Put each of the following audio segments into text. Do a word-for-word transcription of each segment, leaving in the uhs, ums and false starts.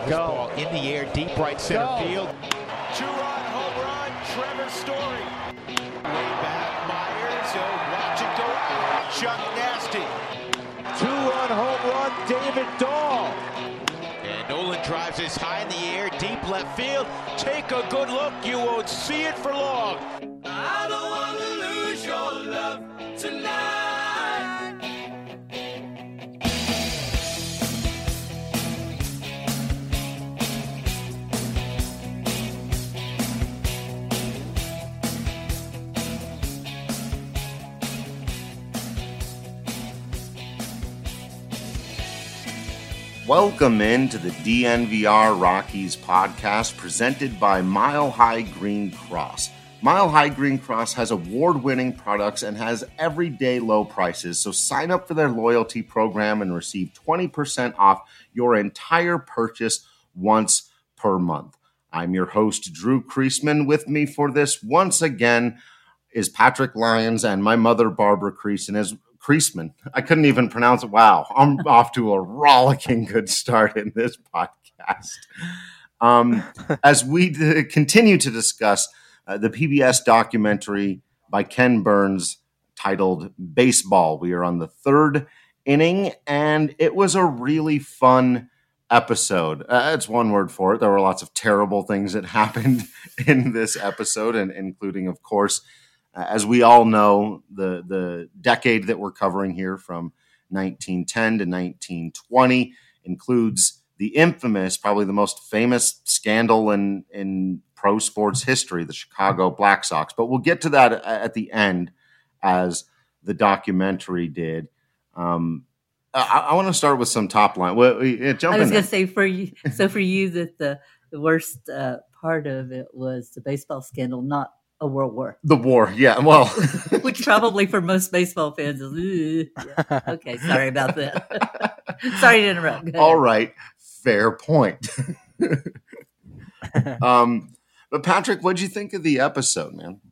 Ball in the air, deep right center Go. field. Two-run home run, Trevor Story. Way back, Myers. Oh, watch it go out. Chuck Nasty. Two-run home run, David Dahl. And Nolan drives this high in the air, deep left field. Take a good look, you won't see it for long. I don't want to lose your love tonight. Welcome in to the D N V R Rockies podcast presented by Mile High Green Cross. Mile High Green Cross has award-winning products and has everyday low prices, so sign up for their loyalty program and receive twenty percent off your entire purchase once per month. I'm your host, Drew Kreisman. With me for this once again is Patrick Lyons and my mother, Barbara Kreisman. As Kreisman. I couldn't even pronounce it. Wow. I'm off to a rollicking good start in this podcast. Um, as we d- continue to discuss uh, the P B S documentary by Ken Burns titled Baseball, we are on the third inning, and it was a really fun episode. Uh, it's one word for it. There were lots of terrible things that happened in this episode, and including, of course, Uh, as we all know, the, the decade that we're covering here from nineteen ten to nineteen twenty includes the infamous, probably the most famous scandal in, in pro sports history, the Chicago Black Sox. But we'll get to that at the end, as the documentary did. Um, I, I want to start with some top line. Well, yeah, jump I was in going to say for you, so for you that the, the worst uh, part of it was the baseball scandal, not a world war. The war, yeah. Well, which probably for most baseball fans is, yeah. Okay, sorry about that. Sorry to interrupt. All right, fair point. um, but Patrick, what'd you think of the episode, man?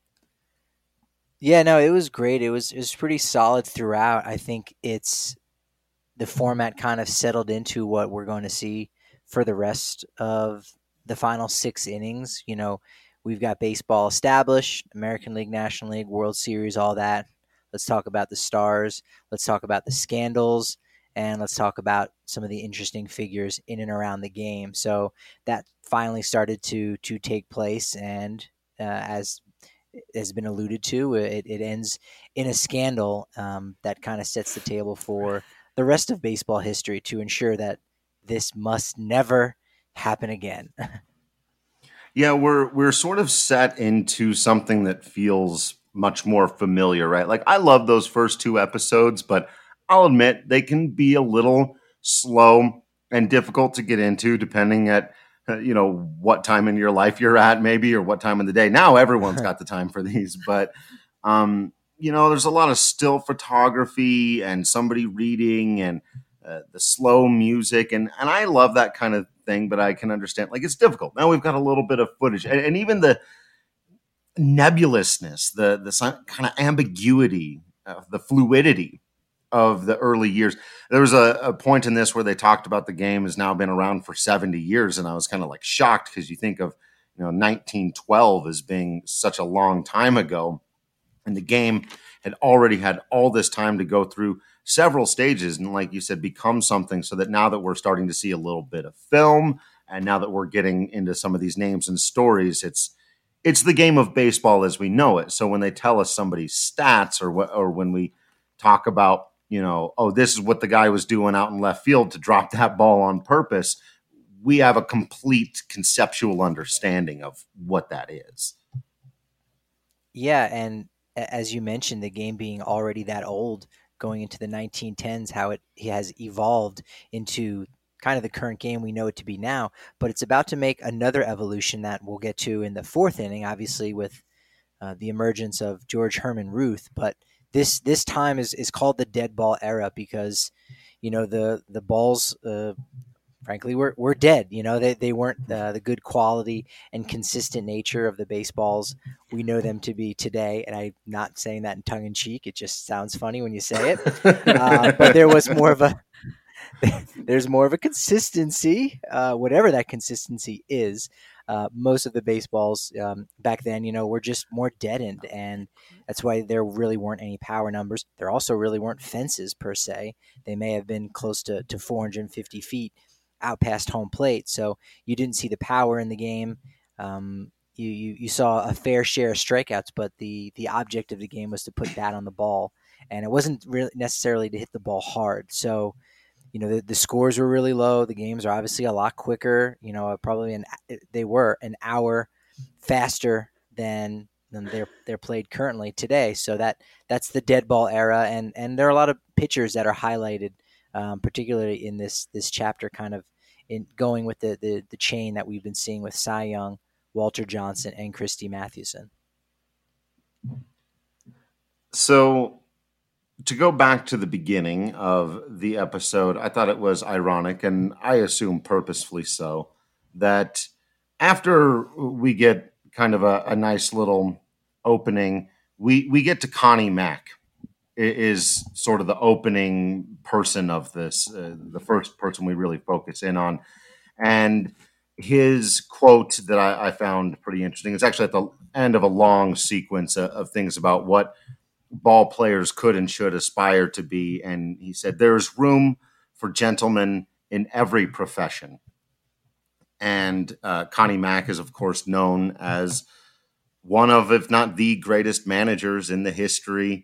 Yeah, no, it was great. It was it was pretty solid throughout. I think it's the format kind of settled into what we're going to see for the rest of the final six innings. You know, we've got baseball established, American League, National League, World Series, all that. Let's talk about the stars. Let's talk about the scandals. And let's talk about some of the interesting figures in and around the game. So that finally started to to take place. And uh, as has been alluded to, it, it ends in a scandal um, that kind of sets the table for the rest of baseball history to ensure that this must never happen again. Yeah, we're we're sort of set into something that feels much more familiar, right? Like, I love those first two episodes, but I'll admit they can be a little slow and difficult to get into, depending at uh, you know what time in your life you're at, maybe, or what time of the day. Now everyone's got the time for these, but um, you know, there's a lot of still photography and somebody reading and uh, the slow music, and and I love that kind of thing, but I can understand, like, it's difficult. Now we've got a little bit of footage, and, and even the nebulousness, the the kind of ambiguity, uh, the fluidity of the early years. There was a, a point in this where they talked about the game has now been around for seventy years, and I was kind of like shocked, because you think of, you know, nineteen twelve as being such a long time ago, and the game had already had all this time to go through several stages and, like you said, become something, so that now that we're starting to see a little bit of film, and now that we're getting into some of these names and stories, it's it's the game of baseball as we know it. So when they tell us somebody's stats, or what, or when we talk about, you know, oh, this is what the guy was doing out in left field to drop that ball on purpose, we have a complete conceptual understanding of what that is. Yeah, and as you mentioned, the game being already that old, going into the nineteen tens, how it has evolved into kind of the current game we know it to be now, but it's about to make another evolution that we'll get to in the fourth inning, obviously with uh, the emergence of George Herman Ruth. But this this time is, is called the dead ball era, because, you know, the the balls, uh, frankly, were, were dead. You know, they, they weren't uh, the good quality and consistent nature of the baseballs we know them to be today. And I'm not saying that in tongue in cheek. It just sounds funny when you say it. uh, but there was more of a there's more of a consistency, uh, whatever that consistency is. Uh, most of the baseballs um, back then, you know, were just more deadened, and that's why there really weren't any power numbers. There also really weren't fences per se. They may have been close to, to four hundred fifty feet out past home plate, so you didn't see the power in the game. Um, you, you you saw a fair share of strikeouts, but the the object of the game was to put bat on the ball, and it wasn't really necessarily to hit the ball hard. So, you know, the, the scores were really low. The games are obviously a lot quicker. You know, probably an they were an hour faster than than they're they're played currently today. So that that's the dead ball era, and and there are a lot of pitchers that are highlighted, um, particularly in this this chapter, kind of in going with the, the the chain that we've been seeing with Cy Young, Walter Johnson, and Christy Mathewson. So, to go back to the beginning of the episode, I thought it was ironic, and I assume purposefully so, that after we get kind of a, a nice little opening, we, we get to Connie Mack, is sort of the opening person of this, uh, the first person we really focus in on. And his quote that I, I found pretty interesting, it's actually at the end of a long sequence of, of things about what ball players could and should aspire to be. And he said, "There's room for gentlemen in every profession." And uh, Connie Mack is, of course, known as one of, if not the greatest managers in the history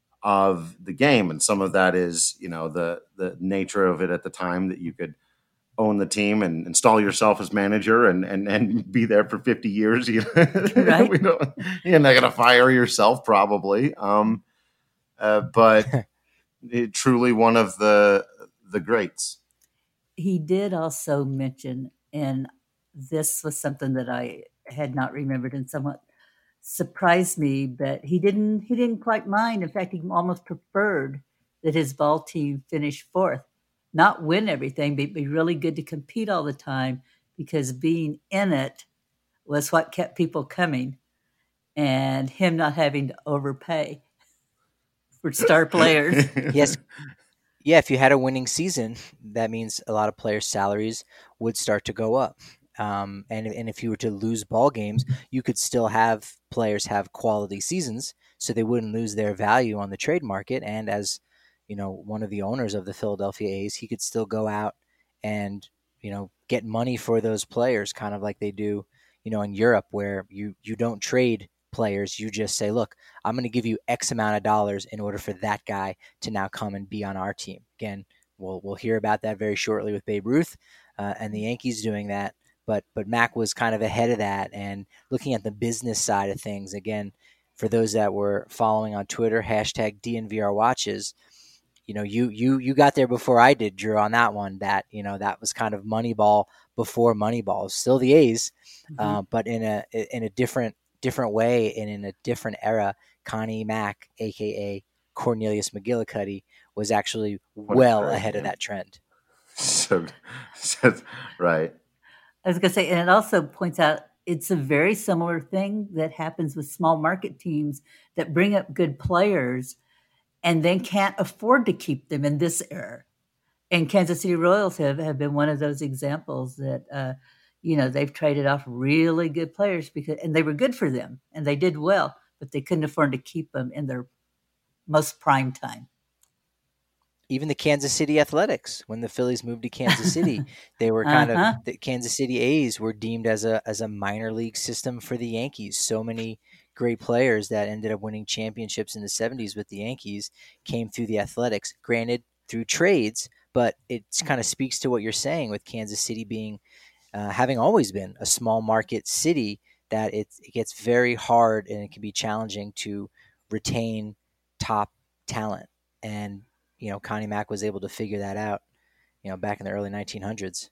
of the game. And some of that is, you know, the, the nature of it at the time, that you could own the team and install yourself as manager and, and, and be there for fifty years. You know? Right. we don't, you're not going to fire yourself probably. Um, uh, but it, truly one of the, the greats. He did also mention, and this was something that I had not remembered and somewhat surprised me, but he didn't, he didn't quite mind. In fact, he almost preferred that his ball team finish fourth. Not win everything, but be really good to compete all the time, because being in it was what kept people coming, and him not having to overpay for star players. Yes. Yeah, if you had a winning season, that means a lot of players' salaries would start to go up. Um, and, and if you were to lose ball games, you could still have players have quality seasons, so they wouldn't lose their value on the trade market. And as you know, one of the owners of the Philadelphia A's, he could still go out and, you know, get money for those players, kind of like they do, you know, in Europe, where you, you don't trade players. You just say, look, I'm going to give you X amount of dollars in order for that guy to now come and be on our team. Again, we'll, we'll hear about that very shortly with Babe Ruth uh, and the Yankees doing that. But, but Mack was kind of ahead of that, and looking at the business side of things. Again, for those that were following on Twitter, hashtag D N V R watches, you know, you you you got there before I did, Drew, on that one. That, you know, that was kind of Moneyball before Moneyball. Still the A's, mm-hmm. uh, but in a in a different different way and in a different era. Connie Mack, aka Cornelius McGillicuddy, was actually what well ahead of that trend. So, so right. I was going to say, and it also points out it's a very similar thing that happens with small market teams that bring up good players and then can't afford to keep them in this era. And Kansas City Royals have, have been one of those examples that, uh, you know, they've traded off really good players because, and they were good for them and they did well, but they couldn't afford to keep them in their most prime time. Even the Kansas City Athletics, when the Phillies moved to Kansas City, they were kind uh-huh. of the Kansas City A's were deemed as a as a minor league system for the Yankees. So many great players that ended up winning championships in the seventies with the Yankees came through the Athletics. Granted, through trades, but it kind of speaks to what you're saying with Kansas City being uh, having always been a small market city, that it, it gets very hard and it can be challenging to retain top talent. And you know, Connie Mack was able to figure that out, you know, back in the early nineteen hundreds.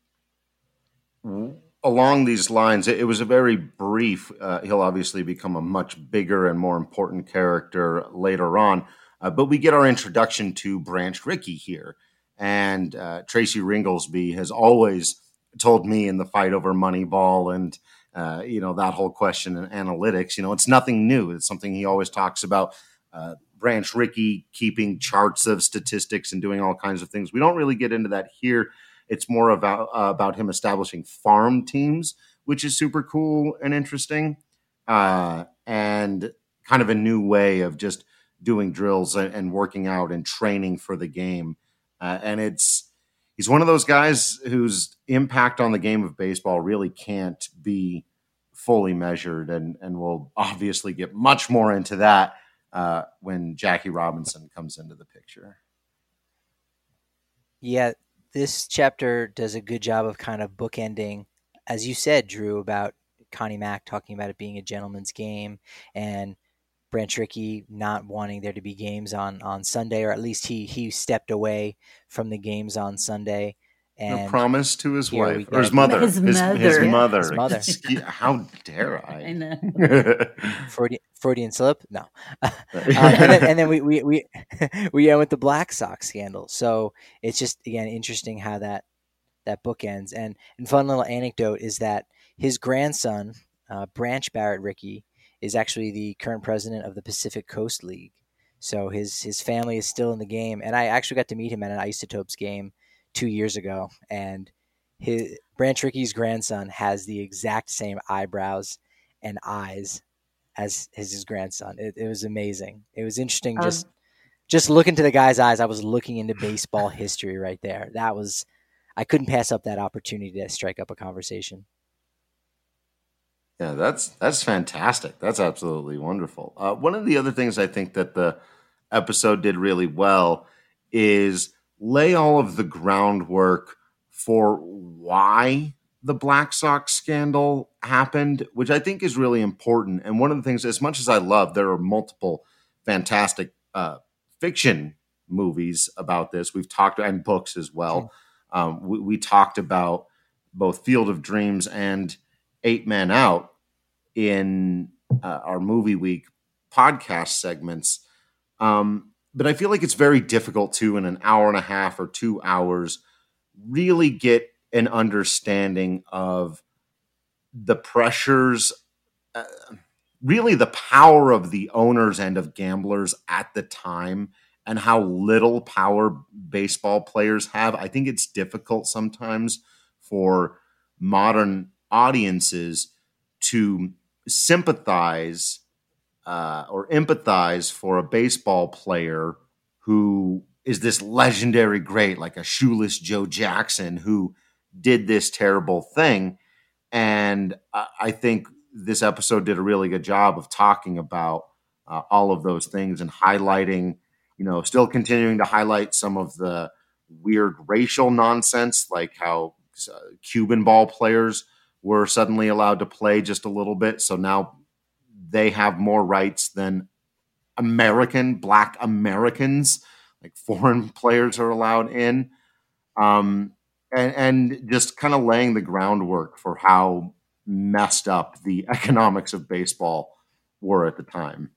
Along these lines, it was a very brief, uh, he'll obviously become a much bigger and more important character later on, uh, but we get our introduction to Branch Rickey here. And uh, Tracy Ringolsby has always told me in the fight over Moneyball and, uh, you know, that whole question in analytics, you know, it's nothing new. It's something he always talks about. Uh, Branch Rickey keeping charts of statistics and doing all kinds of things. We don't really get into that here. It's more about uh, about him establishing farm teams, which is super cool and interesting, uh, and kind of a new way of just doing drills and, and working out and training for the game. Uh, and it's he's one of those guys whose impact on the game of baseball really can't be fully measured, and and we'll obviously get much more into that uh, when Jackie Robinson comes into the picture. Yeah, this chapter does a good job of kind of bookending, as you said, Drew, about Connie Mack talking about it being a gentleman's game and Branch Rickey not wanting there to be games on, on Sunday, or at least he he stepped away from the games on Sunday. And a promise to his wife or his get- mother. His His, mother. his Yeah, mother. his mother. Excuse- How dare I? I know. Freudian, Freudian slip? No. uh, and then, and then we, we, we, we end with the Black Sox scandal. So it's just, again, interesting how that, that book ends. And, and fun little anecdote is that his grandson, uh, Branch Barrett Rickey, is actually the current president of the Pacific Coast League. So his, his family is still in the game. And I actually got to meet him at an Isotopes game two years ago. And his Branch Rickey's grandson has the exact same eyebrows and eyes as his, his grandson. It, it was amazing. It was interesting. Um, Just, just looking to the guy's eyes, I was looking into baseball history right there. That was, I couldn't pass up that opportunity to strike up a conversation. Yeah, that's that's fantastic. That's absolutely wonderful. Uh, one of the other things I think that the episode did really well is lay all of the groundwork for why the Black Sox scandal happened, which I think is really important. And one of the things, as much as I love, there are multiple fantastic uh, fiction movies about this. We've talked, and books as well. Um, we, we talked about both Field of Dreams and Eight Men Out in uh, our Movie Week podcast segments. Um, but I feel like it's very difficult to, in an hour and a half or two hours, really get an understanding of the pressures, uh, really the power of the owners and of gamblers at the time, and how little power baseball players have. I think it's difficult sometimes for modern audiences to sympathize uh, or empathize for a baseball player who is this legendary great, like a shoeless Joe Jackson, who did this terrible thing. And I, I think this episode did a really good job of talking about uh, all of those things and highlighting, you know, still continuing to highlight some of the weird racial nonsense, like how uh, Cuban ball players were suddenly allowed to play just a little bit. So now they have more rights than American, Black Americans, like foreign players are allowed in. Um, and, and just kind of laying the groundwork for how messed up the economics of baseball were at the time.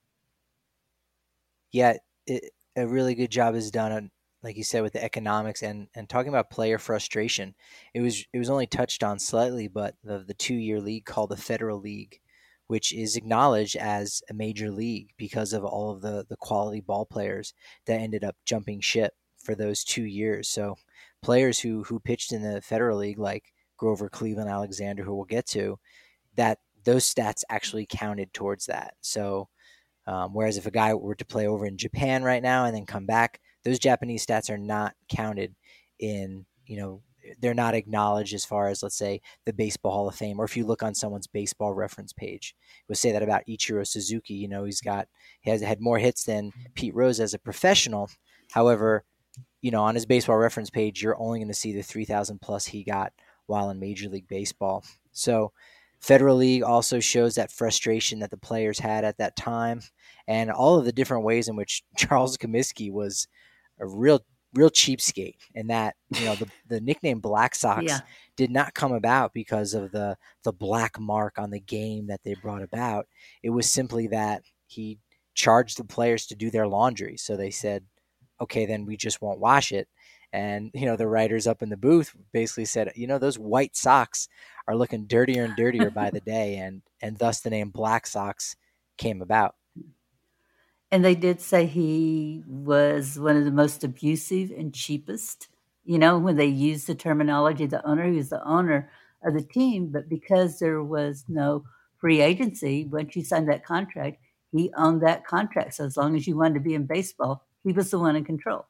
Yeah, it, a really good job is done on, like you said, with the economics and, and talking about player frustration. It was it was only touched on slightly, but the the two year league called the Federal League, which is acknowledged as a major league because of all of the the quality ball players that ended up jumping ship for those two years. So players who who pitched in the Federal League, like Grover Cleveland Alexander, who we'll get to, that those stats actually counted towards that. So um, whereas if a guy were to play over in Japan right now and then come back, those Japanese stats are not counted in, you know, they're not acknowledged as far as, let's say, the Baseball Hall of Fame, or if you look on someone's baseball reference page, we'll say that about Ichiro Suzuki. You know, he's got, he has had more hits than Pete Rose as a professional. However, you know, on his baseball reference page, you're only going to see the three thousand plus he got while in Major League Baseball. So Federal League also shows that frustration that the players had at that time, and all of the different ways in which Charles Comiskey was a real, real cheapskate. And that, you know, the, the nickname Black Sox Yeah. did not come about because of the, the black mark on the game that they brought about. It was simply that he charged the players to do their laundry. So they said, okay, then we just won't wash it. And, you know, the writers up in the booth basically said, you know, those white socks are looking dirtier and dirtier by the day. And, and thus the name Black Sox came about. And they did say he was one of the most abusive and cheapest. You know, when they used the terminology, the owner, he was the owner of the team, but because there was no free agency, once you signed that contract, he owned that contract. So as long as you wanted to be in baseball, he was the one in control.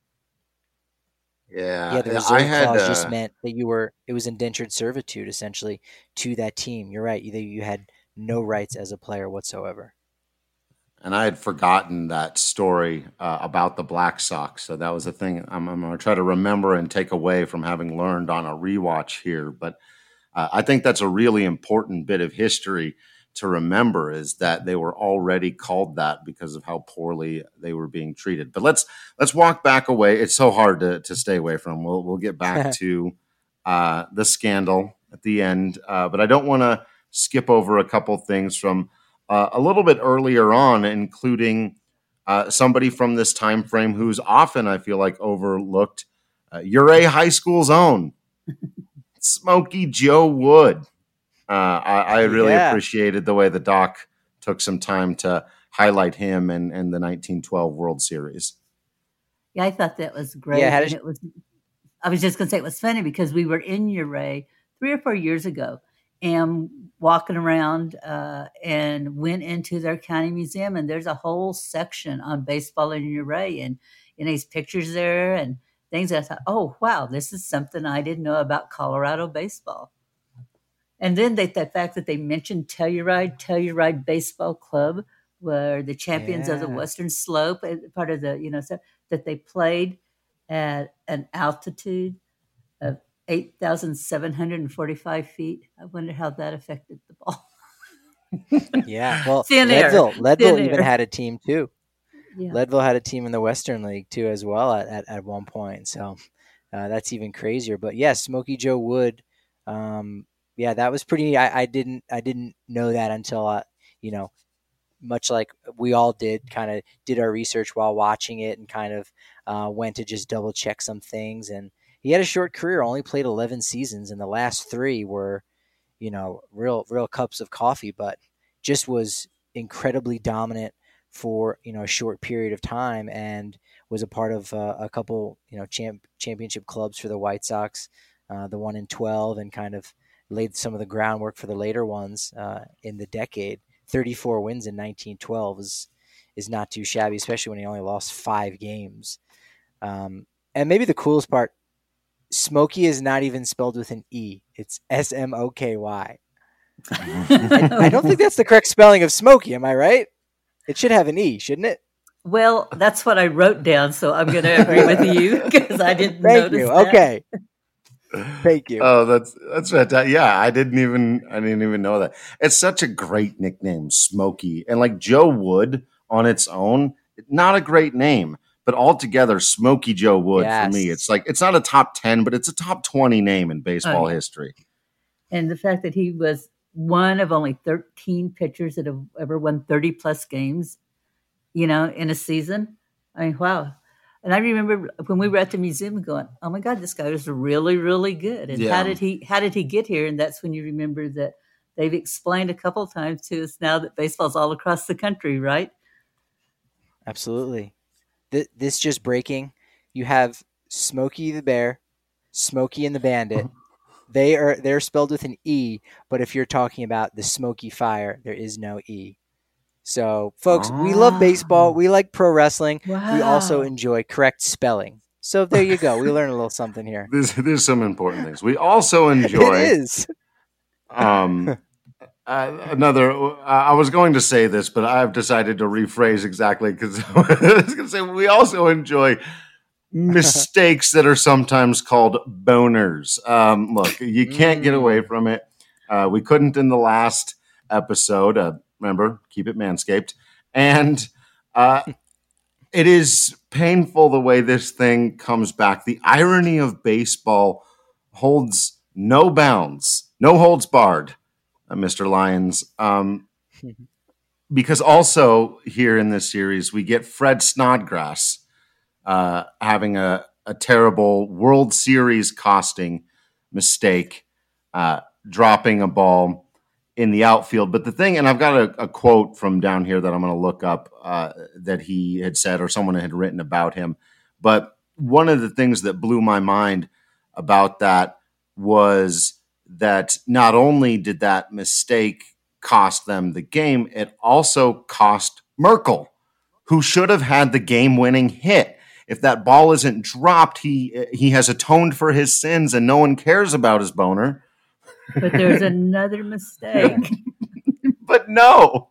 Yeah, Yeah, the I reserve had clause uh, just meant that you were it was indentured servitude essentially to that team. You're right. You, you had no rights as a player whatsoever. and I had forgotten that story uh, about the Black Sox. So that was a thing I'm, I'm going to try to remember and take away from having learned on a rewatch here. But uh, I think that's a really important bit of history to remember, is that they were already called that because of how poorly they were being treated. But let's let's walk back away. It's so hard to, to stay away from. We'll we'll get back to uh, the scandal at the end. Uh, but I don't want to skip over a couple things from uh, a little bit earlier on, including uh, somebody from this time frame who's often, I feel like, overlooked. Uh, Ouray High School's own Smokey Joe Wood. Uh, I, I really Yeah. appreciated the way the doc took some time to highlight him and, and the nineteen twelve World Series. Yeah, I thought that was great. Yeah, how and did it was. I was just going to say it was funny because we were in Ouray three or four years ago and walking around uh, and went into their county museum, and there's a whole section on baseball in Ouray, and you know, these pictures there and things. I thought, oh wow, this is something I didn't know about Colorado baseball. And then they, the fact that they mentioned Telluride, Telluride Baseball Club, were the champions of the Yeah. Western Slope, uh, part of the, you know, so that they played at an altitude of eight thousand seven hundred forty-five feet. I wonder how that affected the ball. Yeah. Well, Thin air. Leadville, Leadville Thin even air. had a team too. Yeah. Leadville had a team in the Western League too, as well at, at, at one point. So uh, that's even crazier. But yeah, Smokey Joe Wood. Um, yeah, that was pretty. I, I didn't. I didn't know that until I, you know, much like we all did, kind of did our research while watching it and kind of uh, went to just double check some things. And he had a short career, only played eleven seasons, and the last three were, you know, real real cups of coffee. But just was incredibly dominant for, you know, a short period of time, and was a part of uh, a couple, you know, champ, championship clubs for the White Sox, uh, the one in twelve, and kind of laid some of the groundwork for the later ones uh, in the decade. thirty-four wins in nineteen twelve is is not too shabby, especially when he only lost five games. Um, and maybe the coolest part, Smokey is not even spelled with an E. It's S M O K Y. I, I don't think that's the correct spelling of Smokey. Am I right? It should have an E, shouldn't it? Well, that's what I wrote down, so I'm going to agree with you because I didn't Thank notice you. that. Okay. Thank you. Oh, that's that's fantastic. Yeah, I didn't even I didn't even know that. It's such a great nickname, Smokey, and like Joe Wood on its own, not a great name, but altogether, Smokey Joe Wood Yes. for me, it's like it's not a top ten, but it's a top twenty name in baseball Oh, yeah. history. And the fact that he was one of only thirteen pitchers that have ever won thirty plus games, you know, in a season. I mean, wow. And I remember when we were at the museum going, oh my God, this guy was really, really good. And Yeah. how did he, how did he get here? And that's when you remember that they've explained a couple of times to us now that baseball's all across the country, right? Absolutely. Th- this just breaking. You have Smokey the Bear, Smokey and the Bandit. They are they're spelled with an E, but if you're talking about the Smoky Fire, there is no E. So, folks, we love baseball. We like pro wrestling. We also Wow. enjoy correct spelling. So there you go. We learn a little something here. There's there's some important things. We also enjoy It is. Um, uh, another. Uh, I was going to say this, but I've decided to rephrase exactly because I was going to say we also enjoy mistakes that are sometimes called boners. Um, look, you can't get away from it. Uh, we couldn't in the last episode. Uh, remember, keep it manscaped, and uh, it is painful the way this thing comes back. The irony of baseball holds no bounds, no holds barred, uh, Mister Lyons. Um, because also here in this series, we get Fred Snodgrass uh, having a, a terrible World Series costing mistake, uh, dropping a ball in the outfield. But the thing, and I've got a, a quote from down here that I'm going to look up uh, that he had said or someone had written about him. But one of the things that blew my mind about that was that not only did that mistake cost them the game, it also cost Merkel, who should have had the game-winning hit. If that ball isn't dropped, he he has atoned for his sins, and no one cares about his boner. But there's another mistake. But no.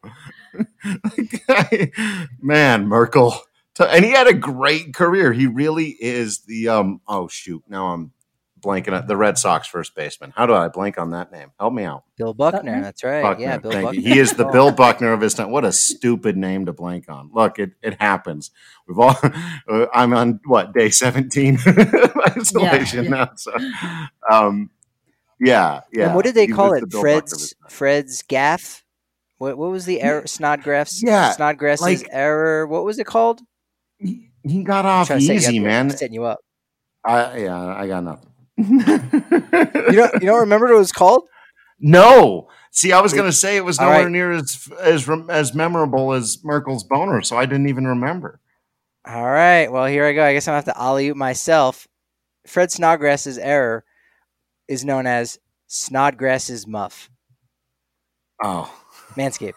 Man, Merkel. And he had a great career. He really is the, um. oh, shoot. Now I'm blanking at the Red Sox first baseman. How do I blank on that name? Help me out. Bill Buckner. Buckner? That's right. Buckner, yeah, Bill thank Buckner. You. He is the Bill Buckner of his time. What a stupid name to blank on. Look, it, it happens. We've all. Uh, I'm on what day seventeen isolation yeah, yeah. now. So, um, yeah, yeah. And what did they he call it? The Fred's Fred's gaff. What what was the error? Snodgrass. Yeah, Snodgrass's like, error. What was it called? He, he got off easy, man. Setting you up. I yeah, I got nothing. you don't you don't remember what it was called? No. See, I was going to say it was nowhere right. near as as as memorable as Merkel's boner, so I didn't even remember. All right. Well, here I go. I guess I'm going to have to alley-oop myself. Fred Snodgrass's error is known as Snodgrass's muff. Oh. Manscaped.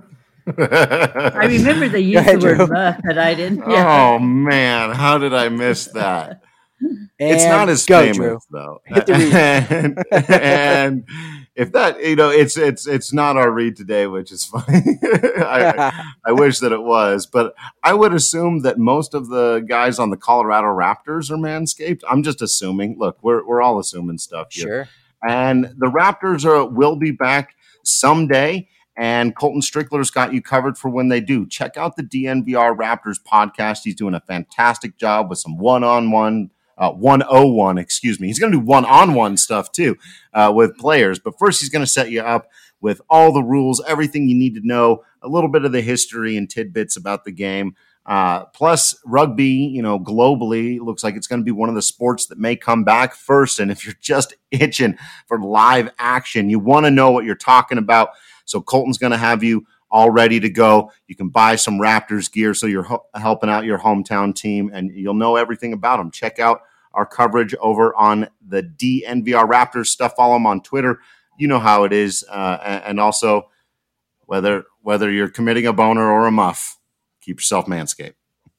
I remember they used ahead, the word Drew. muff, but I didn't. Yeah. Oh, man. How did I miss that? And it's not as go, famous Drew. though, and, and if that you know, it's it's it's not our read today, which is funny. I, I wish that it was, but I would assume that most of the guys on the Colorado Raptors are Manscaped. I'm just assuming. Look, we're we're all assuming stuff here. Sure. And the Raptors are will be back someday. And Colton Strickler's got you covered for when they do. Check out the D N V R Raptors podcast. He's doing a fantastic job with some one-on-one. Uh, one oh one, excuse me. He's going to do one-on-one stuff, too, uh, with players. But first, he's going to set you up with all the rules, everything you need to know, a little bit of the history and tidbits about the game. Uh, plus, rugby, you know, globally, looks like it's going to be one of the sports that may come back first. And if you're just itching for live action, you want to know what you're talking about. So Colton's going to have you all ready to go. You can buy some Raptors gear so you're ho- helping out your hometown team, and you'll know everything about them. Check out our coverage over on the D N V R Raptors stuff. Follow them on Twitter. You know how it is. Uh, and also, whether whether you're committing a boner or a muff, keep yourself Manscaped.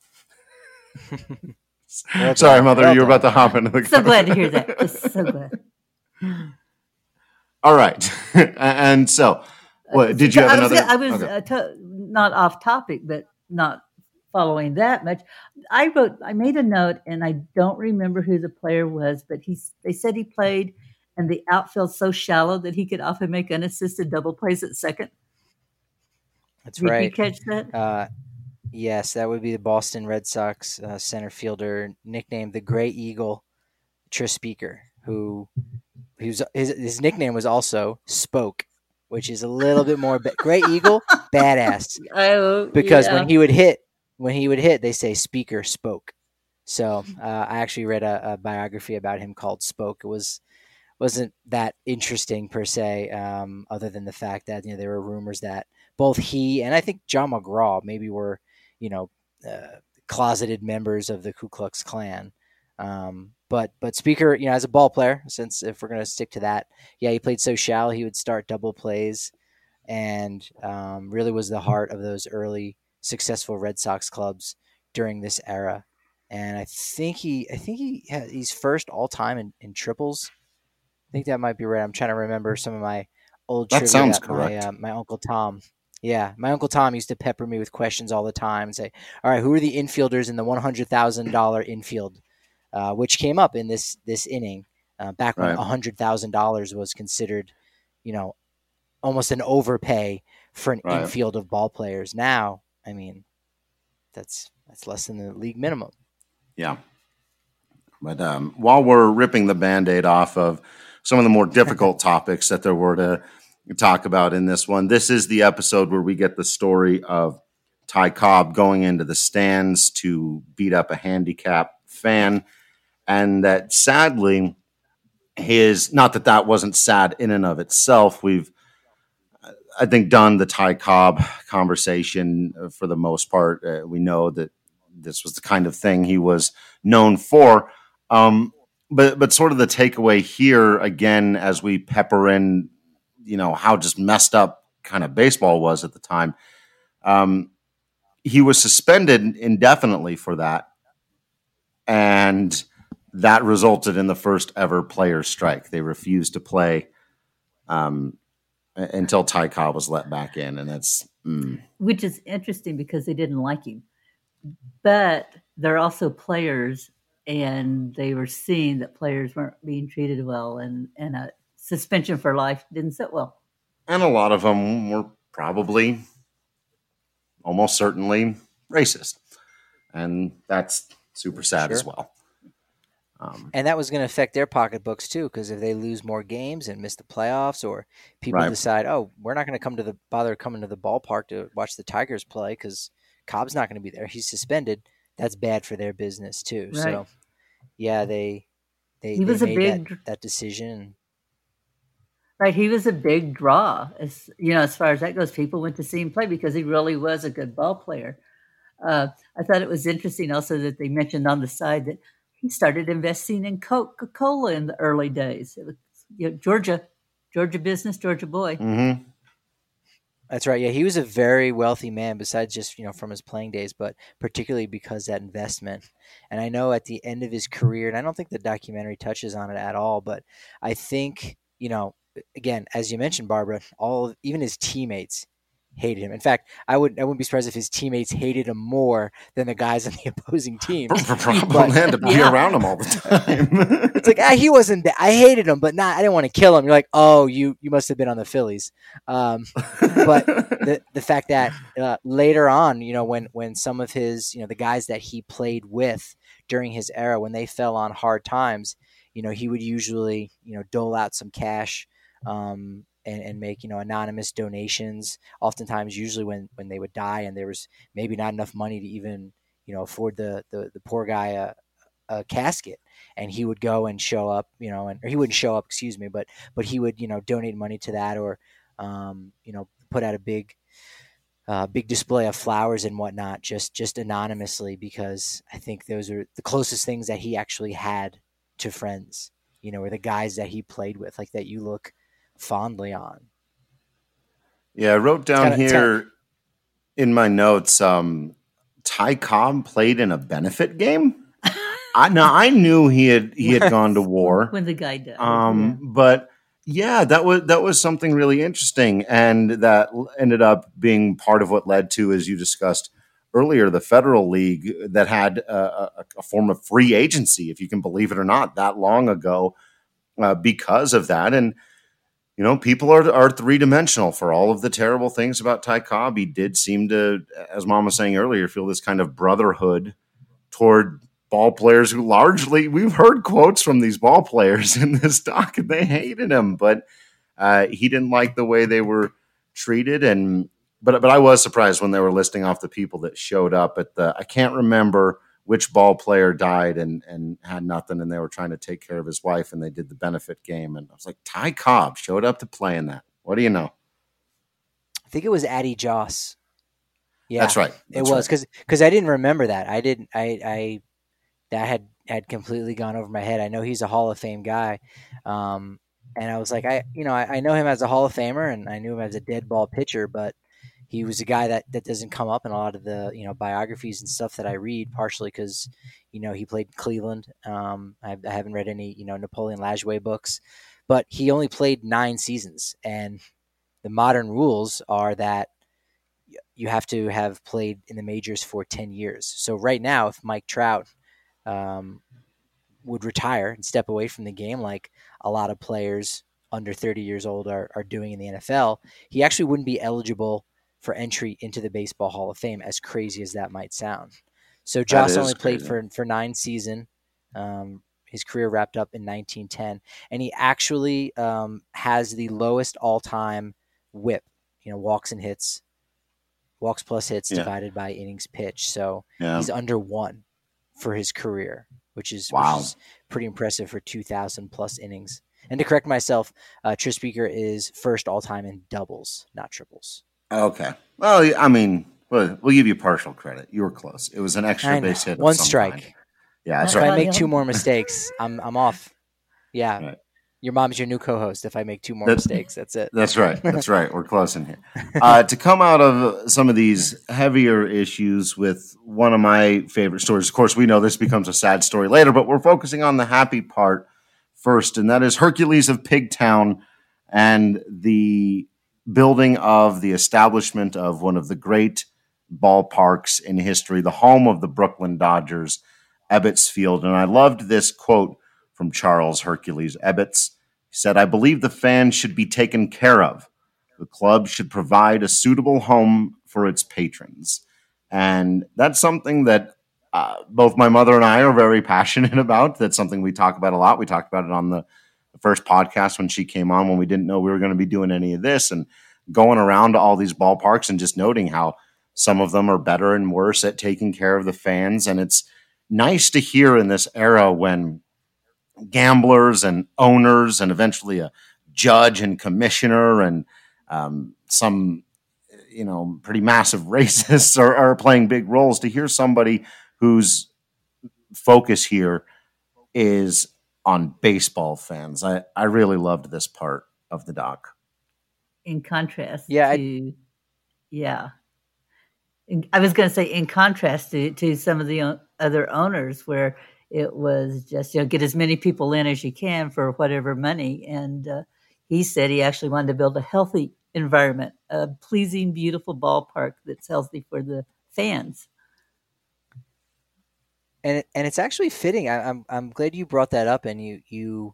well Sorry, done. Mother, well you were about to hop into the So glad to hear that. Just so glad. All right. And so, what, did you have I was, another? I was okay. uh, to, not off topic, but not following that much. I wrote, I made a note, and I don't remember who the player was, but he, they said he played and the outfield so shallow that he could often make unassisted double plays at second. That's Did right. you catch that? Uh, yes, that would be the Boston Red Sox uh, center fielder, nicknamed the Gray Eagle, Tris Speaker, who, who's his his nickname was also Spoke, which is a little bit more ba- Gray Eagle, badass. Oh, because yeah. when he would hit, when he would hit, they say Speaker Spoke. So uh, I actually read a, a biography about him called Spoke. It was wasn't that interesting per se, um, other than the fact that you know there were rumors that both he and I think John McGraw maybe were you know uh, closeted members of the Ku Klux Klan. Um, but but Speaker, you know, as a ball player, since if we're gonna stick to that, yeah, he played so shallow. He would start double plays, and um, really was the heart of those early successful Red Sox clubs during this era. And I think he, I think he, had, he's first all time in, in triples. I think that might be right. I'm trying to remember some of my old that trivia. Sounds that correct. My, uh, my uncle Tom. Yeah, my uncle Tom used to pepper me with questions all the time and say, "All right, who are the infielders in the one hundred thousand dollars infield?" Uh, which came up in this this inning uh, back when right. one hundred thousand dollars was considered, you know, almost an overpay for an right. infield of ball players. Now, I mean, that's that's less than the league minimum. Yeah. But um, while we're ripping the Band-Aid off of some of the more difficult topics that there were to talk about in this one, this is the episode where we get the story of Ty Cobb going into the stands to beat up a handicap fan. And that sadly, his, not that that wasn't sad in and of itself. We've, I think, done the Ty Cobb conversation for the most part. Uh, we know that this was the kind of thing he was known for. Um, but but sort of the takeaway here, again, as we pepper in, you know, how just messed up kind of baseball was at the time. Um, he was suspended indefinitely for that. And that resulted in the first ever player strike. They refused to play um, until Ty Cobb was let back in. And that's... Mm. Which is interesting because they didn't like him. But they're also players, and they were seeing that players weren't being treated well, and, and a suspension for life didn't sit well. And a lot of them were probably, almost certainly, racist. And that's super sad sure. as well. Um, and that was going to affect their pocketbooks too, because if they lose more games and miss the playoffs, or people right. decide, oh, we're not going to come to the bother coming to the ballpark to watch the Tigers play because Cobb's not going to be there, he's suspended. That's bad for their business too. Right. So, yeah, they they, he they was made a big, that, that decision. Right, he was a big draw. As you know, as far as that goes, people went to see him play because he really was a good ball player. Uh, I thought it was interesting also that they mentioned on the side that he started investing in Coca-Cola in the early days. It was, you know, Georgia, Georgia business, Georgia boy. Mm-hmm. That's right. Yeah, he was a very wealthy man besides just, you know, from his playing days, but particularly because that investment. And I know at the end of his career, and I don't think the documentary touches on it at all, but I think, you know, again, as you mentioned, Barbara, all even his teammates hated him. In fact, I would I wouldn't be surprised if his teammates hated him more than the guys on the opposing team. Probably had to be yeah. around him all the time. It's like ah, he wasn't. Th- I hated him, but not. I didn't want to kill him. You're like, oh, you you must have been on the Phillies. Um, but the the fact that uh, later on, you know, when when some of his, you know, the guys that he played with during his era, when they fell on hard times, you know, he would usually, you know, dole out some cash. Um, And, and make, you know, anonymous donations, oftentimes usually when, when they would die and there was maybe not enough money to even, you know, afford the, the, the poor guy a, a casket. And he would go and show up, you know, and or he wouldn't show up, excuse me, but but he would, you know, donate money to that or, um, you know, put out a big uh, big display of flowers and whatnot, just just anonymously, because I think those are the closest things that he actually had to friends, you know, or the guys that he played with, like that you look fondly on. Yeah, I wrote down kinda, here kinda... in my notes, um, Ty Cobb played in a benefit game. I now I knew he had he had gone to war when the guy died. Um, yeah. but yeah, that was that was something really interesting, and that ended up being part of what led to, as you discussed earlier, the Federal League that had a, a, a form of free agency, if you can believe it or not, that long ago, uh, because of that. And you know, people are are three dimensional for all of the terrible things about Ty Cobb. He did seem to, as Mom was saying earlier, feel this kind of brotherhood toward ball players who largely, we've heard quotes from these ball players in this doc, and they hated him, but uh, he didn't like the way they were treated. And but but I was surprised when they were listing off the people that showed up at the, I can't remember which ball player died and, and had nothing, and they were trying to take care of his wife, and they did the benefit game. And I was like, Ty Cobb showed up to play in that. What do you know? I think it was Addie Joss. Yeah, that's right. That's it was because right. because I didn't remember that. I didn't. I I that had had completely gone over my head. I know he's a Hall of Fame guy, um, and I was like, I you know I, I know him as a Hall of Famer, and I knew him as a dead ball pitcher, but he was a guy that, that doesn't come up in a lot of the, you know, biographies and stuff that I read, partially because, you know, he played in Cleveland. Um, I, I haven't read any, you know, Napoleon Lajoie books, but he only played nine seasons. And the modern rules are that you have to have played in the majors for ten years. So right now, if Mike Trout um, would retire and step away from the game, like a lot of players under thirty years old are, are doing in the N F L, he actually wouldn't be eligible for entry into the Baseball Hall of Fame, as crazy as that might sound. So Joss only played crazy. for for nine seasons. Um, his career wrapped up in nineteen ten, and he actually um, has the lowest all-time whip. You know, walks and hits, walks plus hits yeah. divided by innings pitched. So yeah. he's under one for his career, which is, wow. which is pretty impressive for two thousand plus innings. And to correct myself, uh, Tris Speaker is first all time in doubles, not triples. Okay. Well, I mean, we'll, we'll give you partial credit. You were close. It was an extra base hit. One of some strike. kind. Yeah, that's if right. I make two more mistakes, I'm I'm off. Yeah. Right. Your mom's your new co-host. If I make two more That's, mistakes, that's it. That's right. That's right. We're close in here. Uh, to come out of some of these heavier issues with one of my favorite stories, of course, we know this becomes a sad story later, but we're focusing on the happy part first, and that is Hercules of Pigtown and the building of the establishment of one of the great ballparks in history, the home of the Brooklyn Dodgers, Ebbets Field. And I loved this quote from Charles Hercules Ebbets. He said, "I believe the fans should be taken care of. The club should provide a suitable home for its patrons." And that's something that uh, both my mother and I are very passionate about. That's something we talk about a lot. We talked about it on the, the first podcast when she came on, when we didn't know we were going to be doing any of this, and going around to all these ballparks and just noting how some of them are better and worse at taking care of the fans. And it's nice to hear in this era when gamblers and owners and eventually a judge and commissioner and um, some, you know, pretty massive racists are, are playing big roles, to hear somebody whose focus here is on baseball fans. I, I really loved this part of the doc. In contrast yeah, to, I, yeah. In, I was going to say in contrast to, to some of the o- other owners where it was just, you know, get as many people in as you can for whatever money. And uh, he said he actually wanted to build a healthy environment, a pleasing, beautiful ballpark that's healthy for the fans. And it, and it's actually fitting. I, I'm I'm glad you brought that up, and you you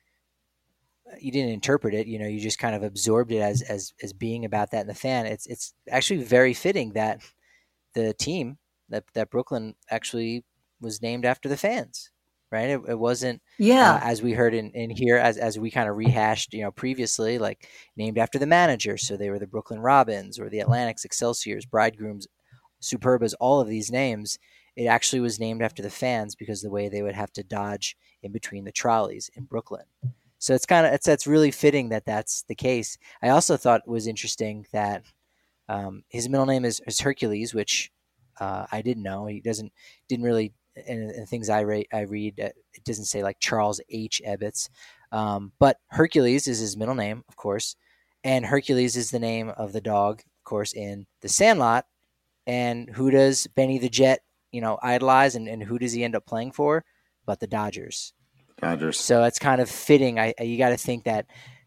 you didn't interpret it. You know, you just kind of absorbed it as as as being about that in the fan. It's it's actually very fitting that the team that that Brooklyn actually was named after the fans, right? It, it wasn't, yeah, uh, as we heard in, in here, as as we kind of rehashed, you know, previously, like named after the manager. So they were the Brooklyn Robins or the Atlantics, Excelsiors, Bridegrooms, Superbas, all of these names. It actually was named after the fans because of the way they would have to dodge in between the trolleys in Brooklyn. So it's kind of, it's, it's really fitting that that's the case. I also thought it was interesting that um, his middle name is, is Hercules, which uh, I didn't know. He doesn't, didn't really, and, and things I, ra- I read, uh, it doesn't say like Charles H. Ebbets. Um, but Hercules is his middle name, of course. And Hercules is the name of the dog, of course, in The Sandlot. And who does Benny the Jet, you know, idolize, and, and who does he end up playing for? But the Dodgers. Dodgers. So it's kind of fitting. I, I you got to think that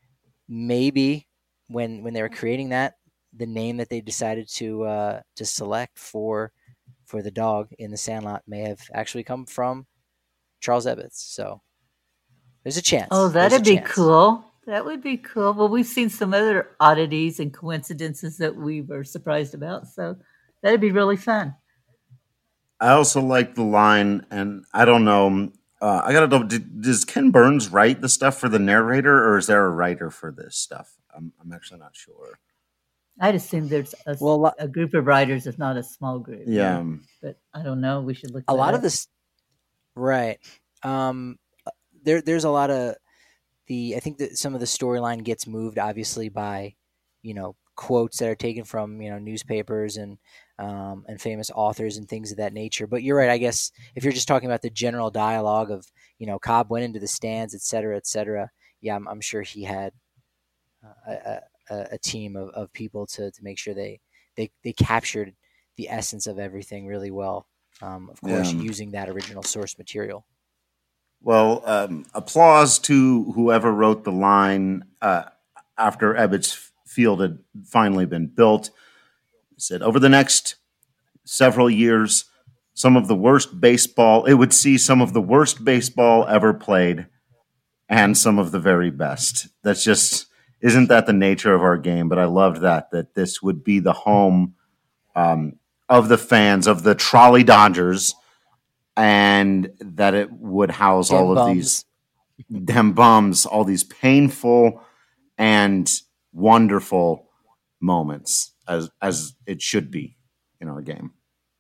maybe when when they were creating that, the name that they decided to uh, to select for for the dog in The Sandlot may have actually come from Charles Ebbets. So there's a chance. Oh, There's that'd a be chance. cool. That would be cool. Well, we've seen some other oddities and coincidences that we were surprised about. So that'd be really fun. I also like the line, and I don't know, uh, I gotta know, did, does Ken Burns write the stuff for the narrator, or is there a writer for this stuff? I'm, I'm actually not sure. I'd assume there's a, Well, a group of writers, if not a small group. Yeah. Um, But I don't know. We should look a that lot up. of this, right? Um, there, there's a lot of the. I think that some of the storyline gets moved, obviously, by you know quotes that are taken from you know newspapers and um, and famous authors and things of that nature. But you're right. I guess if you're just talking about the general dialogue of you know Cobb went into the stands, et cetera, et cetera. Yeah, I'm, I'm sure he had uh, a, a, a team of, of people to, to make sure they, they they captured the essence of everything really well. Um, of course, Yeah. using that original source material. Well, um, applause to whoever wrote the line uh, after Ebbets Field had finally been built. He said, over the next several years, some of the worst baseball, it would see some of the worst baseball ever played and some of the very best. That's just, isn't that the nature of our game? But I loved that, that this would be the home um, of the fans, of the Trolley Dodgers, and that it would house Dem all of bums. these dem bums, all these painful and wonderful moments, as as it should be in our game.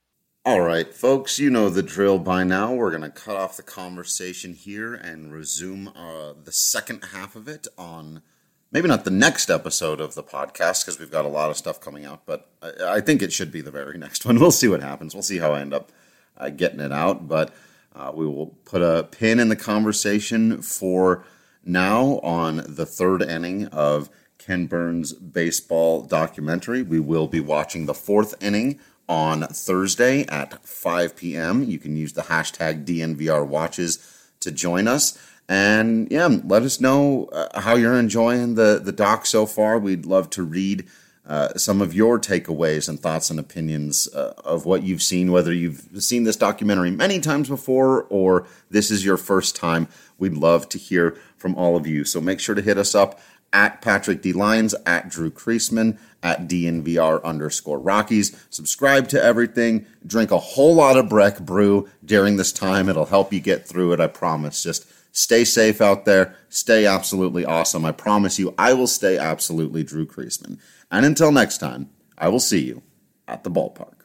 All right, folks, you know the drill by now. We're going to cut off the conversation here and resume uh, the second half of it on maybe not the next episode of the podcast because we've got a lot of stuff coming out, but I, I think it should be the very next one. We'll see what happens. We'll see how I end up uh, getting it out, but uh, we will put a pin in the conversation for now on the third inning of Ken Burns' baseball documentary. We will be watching the fourth inning on Thursday at five p.m. You can use the hashtag D N V R watches to join us. And yeah, let us know uh, how you're enjoying the, the doc so far. We'd love to read uh, some of your takeaways and thoughts and opinions uh, of what you've seen, whether you've seen this documentary many times before or this is your first time. We'd love to hear from all of you. So make sure to hit us up at Patrick D. Lyons, at Drew Creasman, at D N V R underscore Rockies. Subscribe to everything. Drink a whole lot of Breck Brew during this time. It'll help you get through it, I promise. Just stay safe out there. Stay absolutely awesome. I promise you, I will stay absolutely Drew Creasman. And until next time, I will see you at the ballpark.